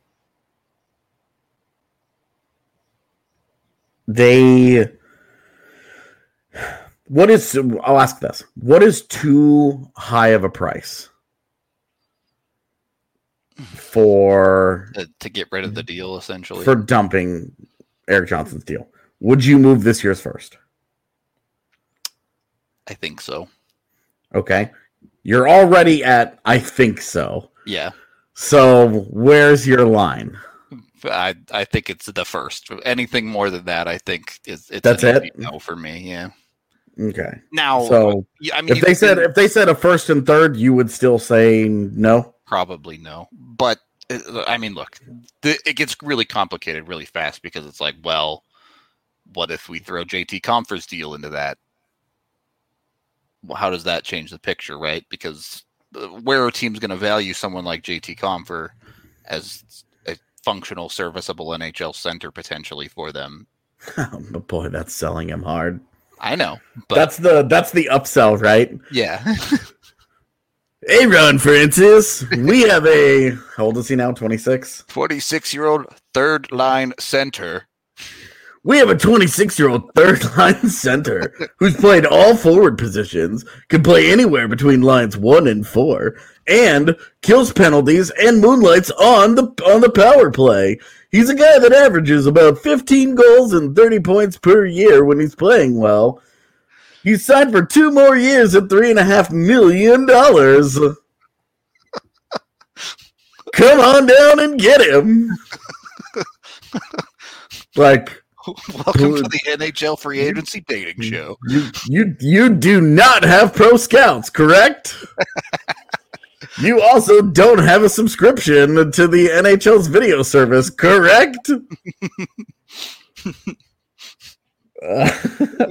they. What is? I'll ask this: what is too high of a price for to, to get rid of the deal, essentially, for dumping Erik Johnson's deal? Would you move this year's first? I think so. Okay. You're already at I think so. Yeah. So where's your line? I I think it's the first. Anything more than that, I think is it's That's an it? no for me. Yeah. Okay. Now, So I mean, if they said if they said a first and third, you would still say no? probably no. But uh, I mean, look, the, it gets really complicated really fast because it's like, well, what if we throw J T Compher's deal into that? Well, how does that change the picture, right? Because where are teams going to value someone like J T Compher as a functional, serviceable N H L center potentially for them? But boy, that's selling him hard. I know, but That's the that's the upsell, right? yeah. Hey, Ron Francis, we have a how old is he now? twenty-six. twenty-six-year-old third line center. We have a twenty-six-year-old third-line center who's played all forward positions, can play anywhere between lines one and four, and kills penalties and moonlights on the on the power play. He's a guy that averages about fifteen goals and thirty points per year when he's playing well. He's signed for two more years at three and a half million dollars. Come on down and get him. Like. Welcome to the N H L free agency dating show. You you you do not have pro scouts, correct? You also don't have a subscription to the N H L's video service, correct? Uh,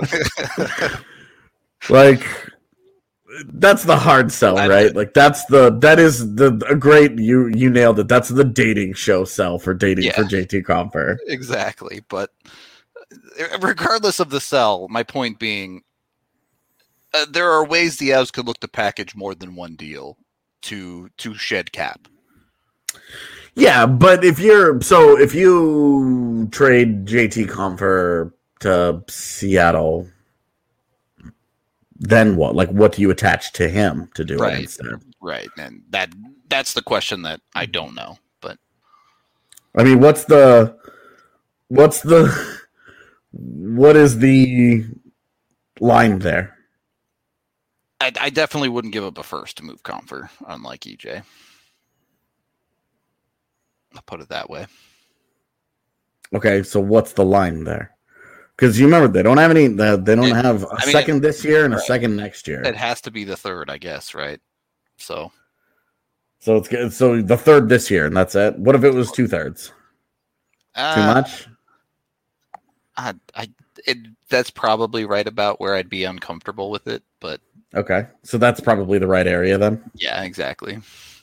like that's the hard sell, right? Like that's the that is the a great you you nailed it. That's the dating show sell for dating Yeah. for J T Compher. Exactly, but regardless of the sell, my point being, uh, there are ways the Avs could look to package more than one deal to to shed cap. Yeah, but if you're so if you trade J T Compher to Seattle, then what? Like, what do you attach to him to do Right. it instead? Right, and that that's the question that I don't know. But I mean, what's the what's the what is the line there? I, I definitely wouldn't give up a first to move Compher, unlike E J. I'll put it that way. Okay, so what's the line there? Because you remember they don't have any. They don't It- have a I mean, second this year and a right. second next year. It has to be the third, I guess, right? So So it's good. So the third this year, and that's it. What if it was two thirds? uh, Too much? I, I it, that's probably right about where I'd be uncomfortable with it, but Okay, so that's probably the right area then. yeah, exactly.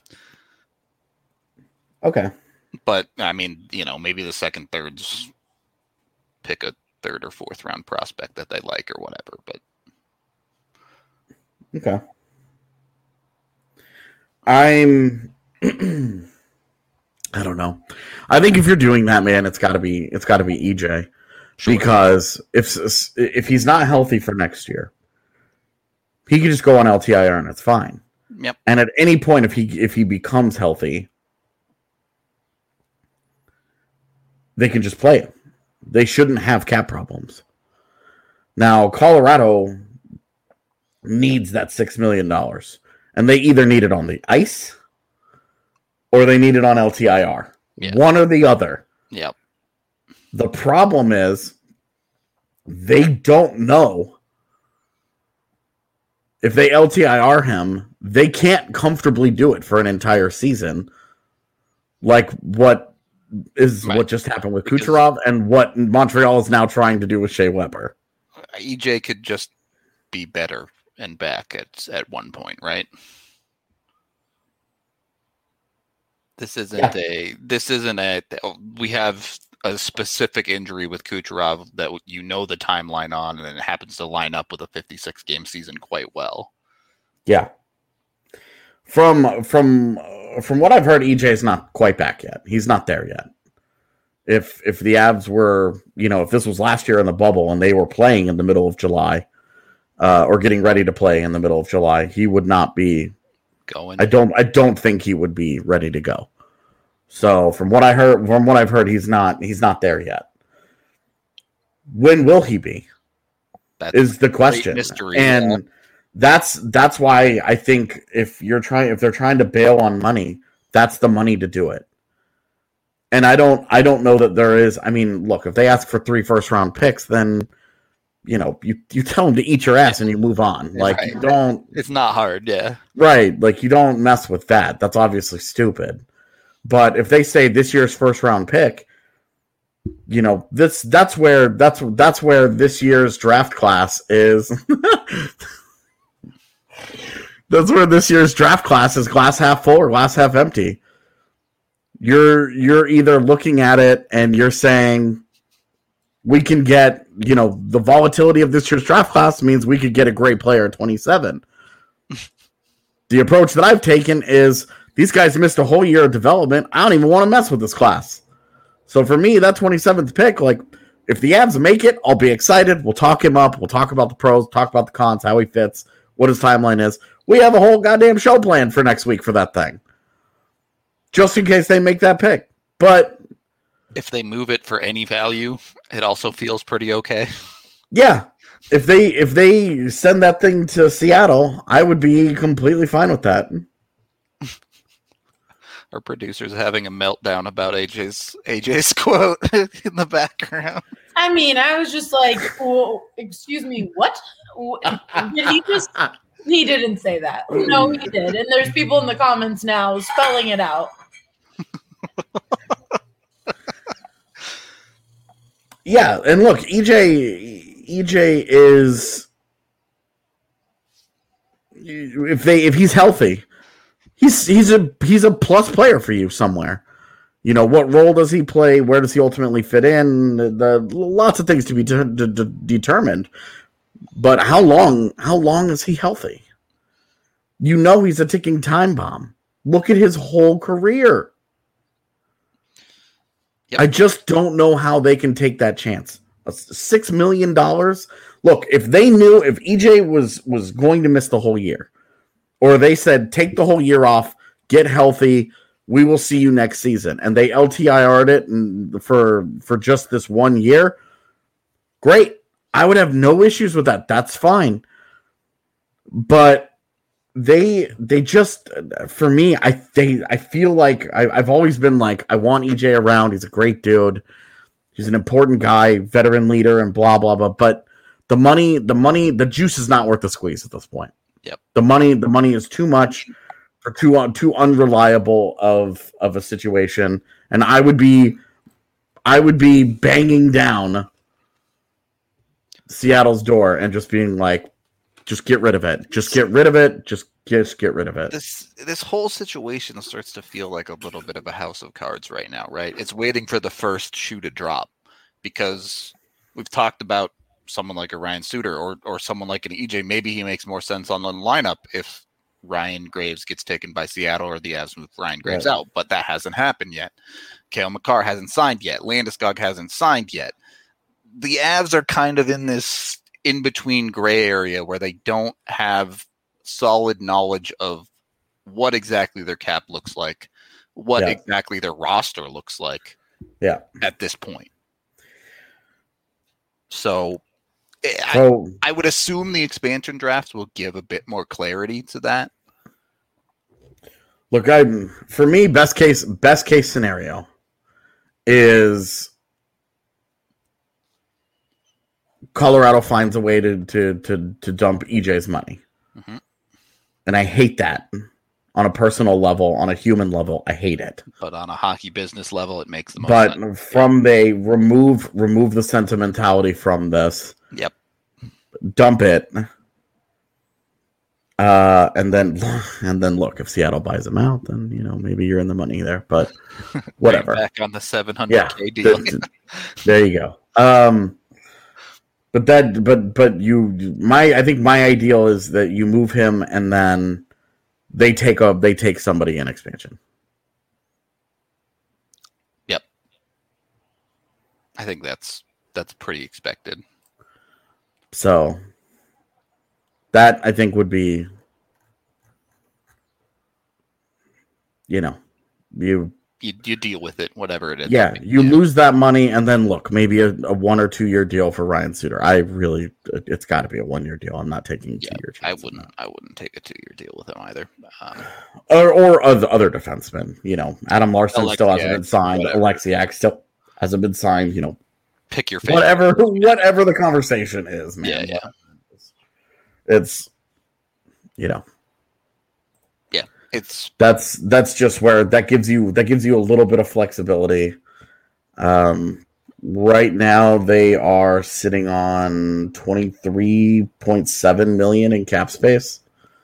Okay. But I mean, you know, maybe the second thirds pick a third or fourth round prospect that they like or whatever. But Okay. I'm I don't know. I think if you're doing that, man, it's got to be it's got to be E J. Sure. Because if if he's not healthy for next year, he can just go on L T I R and it's fine. Yep. And at any point if he if he becomes healthy, they can just play him. They shouldn't have cap problems. Now, Colorado needs that six million dollars. And they either need it on the ice or they need it on L T I R. Yeah. One or the other. Yep. The problem is they don't know if they L T I R him, they can't comfortably do it for an entire season. Like what is Right. what just happened with Because- Kucherov and what Montreal is now trying to do with Shea Weber. E J could just be better and back at at one point, right? This isn't Yeah. a. This isn't a. We have a specific injury with Kucherov that you know the timeline on, and it happens to line up with a fifty-six game season quite well. Yeah. From from from what I've heard, E J's not quite back yet. He's not there yet. If if the Avs were, you know, if this was last year in the bubble and they were playing in the middle of July, uh, or getting ready to play in the middle of July, he would not be going. I don't I don't think he would be ready to go. So from what I heard, from what I've heard, he's not he's not there yet. When will he be? That's is the question. Mystery, and yeah. that's that's why I think if you're trying if they're trying to bail on money, that's the money to do it. And I don't I don't know that there is. I mean, look, if they ask for three first round picks, then you know, you, you tell them to eat your ass and you move on. Like, right. you don't. It's not hard, yeah. Right. Like, you don't mess with that. That's obviously stupid. But if they say this year's first round pick, you know, this that's where that's that's where this year's draft class is. That's where this year's draft class is glass half full or glass half empty. You're you're either looking at it and you're saying we can get, you know, the volatility of this year's draft class means we could get a great player at twenty-seven. The approach that I've taken is these guys missed a whole year of development. I don't even want to mess with this class. So for me, that twenty-seventh pick, like, if the Avs make it, I'll be excited. We'll talk him up. We'll talk about the pros, talk about the cons, how he fits, what his timeline is. We have a whole goddamn show planned for next week for that thing. Just in case they make that pick. But if they move it for any value, it also feels pretty okay. Yeah. If they if they send that thing to Seattle, I would be completely fine with that. Our producer's having a meltdown about A J's A J's quote in the background. I mean, I was just like, well, excuse me, what? Did he just he didn't say that. No, he did. And there's people in the comments now spelling it out. Yeah, and look, E J E J is if they if he's healthy, he's he's a he's a plus player for you somewhere. You know, what role does he play? Where does he ultimately fit in? The, the lots of things to be de- de- de- determined. But how long how long is he healthy? You know he's a ticking time bomb. Look at his whole career. Yep. I just don't know how they can take that chance. Six million dollars. Look, if they knew if E J was was going to miss the whole year, or they said take the whole year off, get healthy, we will see you next season, and they L T I R'd it and for for just this one year, great. I would have no issues with that. That's fine. But they they just for me, I they I feel like I, I've always been like I want E J around. He's a great dude. He's an important guy, veteran leader, and blah blah blah. But the money, the money, the juice is not worth the squeeze at this point. Yep. The money, the money is too much for too uh, too unreliable of of a situation, and I would be I would be banging down Seattle's door and just being like, just get rid of it. Just get rid of it. Just just get rid of it. This this whole situation starts to feel like a little bit of a house of cards right now, right? It's waiting for the first shoe to drop because we've talked about someone like a Ryan Suter or or someone like an E J. Maybe he makes more sense on the lineup if Ryan Graves gets taken by Seattle or the Avs move Ryan Graves right out, but that hasn't happened yet. Cale Makar hasn't signed yet. Landeskog hasn't signed yet. The Avs are kind of in this in-between gray area where they don't have solid knowledge of what exactly their cap looks like, what yeah. exactly their roster looks like yeah. at this point. So, so I, I would assume the expansion drafts will give a bit more clarity to that. Look, I for me, best case best case scenario is Colorado finds a way to to to, to dump E J's money. Mm-hmm. And I hate that on a personal level, on a human level. I hate it. But on a hockey business level, it makes the most but sense. From they remove remove the sentimentality from this. Yep. Dump it. Uh, and then and then look, if Seattle buys him out, then you know maybe you're in the money there. But whatever. Back on the seven hundred K yeah, deal. th- th- there you go. Um, but that, but but you, my, I think my ideal is that you move him and then they take a they take somebody in expansion. Yep, I think that's that's pretty expected. So that I think would be, you know, you. You, you deal with it, whatever it is. Yeah, you yeah. lose that money, and then look, maybe a, a one or two year deal for Ryan Suter. I really, it's got to be a one year deal. I'm not taking a yeah, two year. I wouldn't. I wouldn't take a two year deal with him either. Um, or or other other defensemen. You know, Adam Larson Alexiak, still hasn't been signed. Whatever. Alexiak still hasn't been signed. You know, pick your favorite. Whatever, whatever the conversation is, man. Yeah, yeah. It's, you know. It's that's that's just where that gives you that gives you a little bit of flexibility. Um, right now they are sitting on twenty-three point seven million in cap space.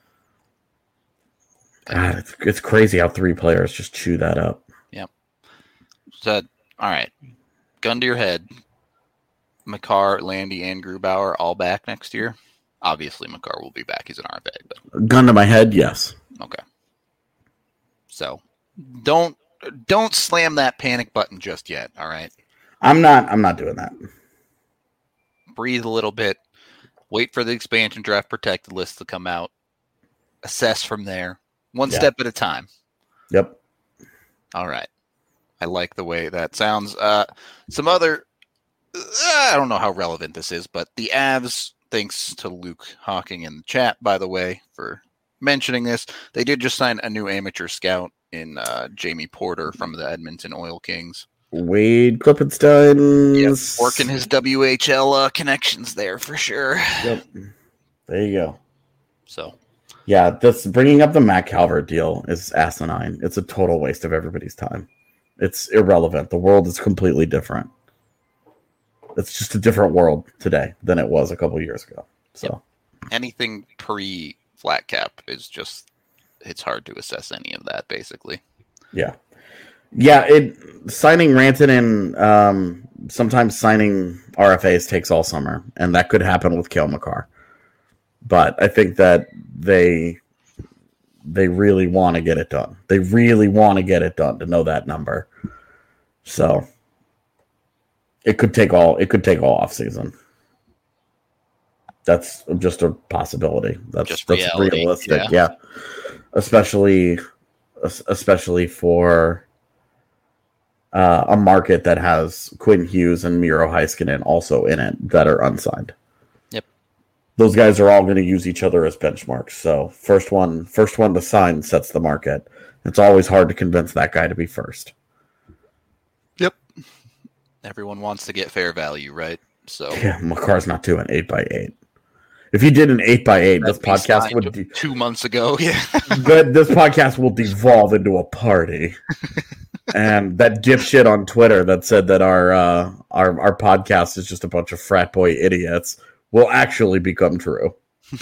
God, it's, it's crazy how three players just chew that up. Yep. So, all right, gun to your head. Makar, Landy, and Grubauer all back next year. Obviously, Makar will be back. He's an R F A. But gun to my head, yes. Okay. So don't don't slam that panic button just yet, all right? I'm not I'm not doing that. Breathe a little bit. Wait for the expansion draft protected list to come out. Assess from there. One yeah. step at a time. Yep. All right. I like the way that sounds. Uh, some other uh, I don't know how relevant this is, but the Avs, thanks to Luke Hawking in the chat, by the way, for mentioning this, they did just sign a new amateur scout in uh, Jamie Porter from the Edmonton Oil Kings. Wade Klippenstein. Yep, working his W H L uh, connections there for sure. Yep. There you go. So, yeah, this bringing up the Matt Calvert deal is asinine. It's a total waste of everybody's time. It's irrelevant. The world is completely different. It's just a different world today than it was a couple years ago. So, yep. Anything pre flat cap is just, it's hard to assess any of that, basically. Yeah. Yeah, it signing Ranton and um, sometimes signing R F As takes all summer, and that could happen with Cale Makar. But I think that they they really want to get it done. They really want to get it done to know that number. So it could take all it could take all off season. That's just a possibility. That's just that's reality, realistic. Yeah. yeah. Especially especially for uh, a market that has Quinn Hughes and Miro Heiskanen also in it that are unsigned. Yep. Those guys are all going to use each other as benchmarks. So first one first one to sign sets the market. It's always hard to convince that guy to be first. Yep. Everyone wants to get fair value, right? So yeah, Makar's not doing eight by eight. If you did an eight by eight, this podcast would de- two months ago. Yeah, good. This podcast will devolve into a party. And that dipshit on Twitter that said that our uh, our our podcast is just a bunch of frat boy idiots will actually become true.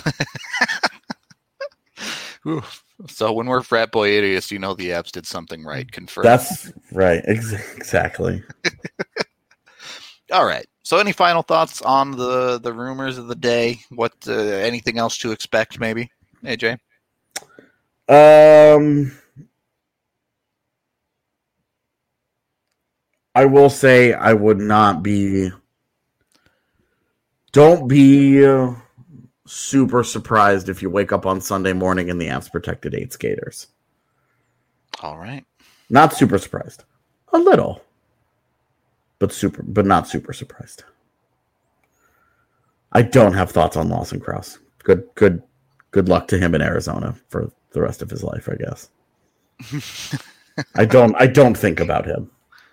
So when we're frat boy idiots, you know the apps did something right. Confirmed. That's right. Ex- exactly. All right. So any final thoughts on the, the rumors of the day? What uh, anything else to expect, maybe, A J? Um, I will say I would not be. Don't be uh, super surprised if you wake up on Sunday morning and the Avs protected eight skaters. All right. Not super surprised. A little. But super, but not super surprised. I don't have thoughts on Lawson Crouse. Good, good, good luck to him in Arizona for the rest of his life, I guess. I don't, I don't think about him.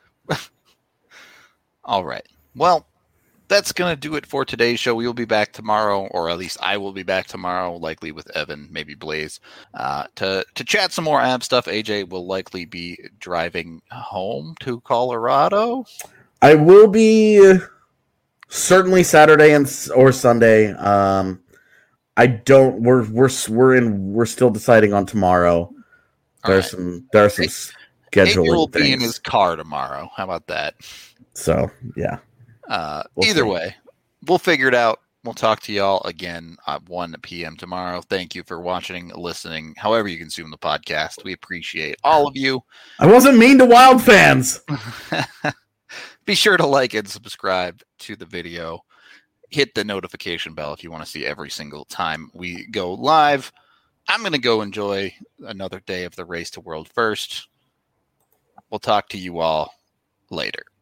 All right. Well, that's gonna do it for today's show. We will be back tomorrow, or at least I will be back tomorrow, likely with Evan, maybe Blaze, uh, to to chat some more Ab stuff. A J will likely be driving home to Colorado. I will be certainly Saturday and or Sunday. Um, I don't. We're we're we're in. We're still deciding on tomorrow. There's right. some. There are some scheduling will things. Be in his car tomorrow. How about that? So yeah. Uh, we'll either see. way, we'll figure it out. We'll talk to y'all again at one p.m. tomorrow. Thank you for watching, listening, however you consume the podcast. We appreciate all of you. I wasn't mean to Wild fans. Be sure to like and subscribe to the video. Hit the notification bell if you want to see every single time we go live. I'm going to go enjoy another day of the Race to World First. We'll talk to you all later.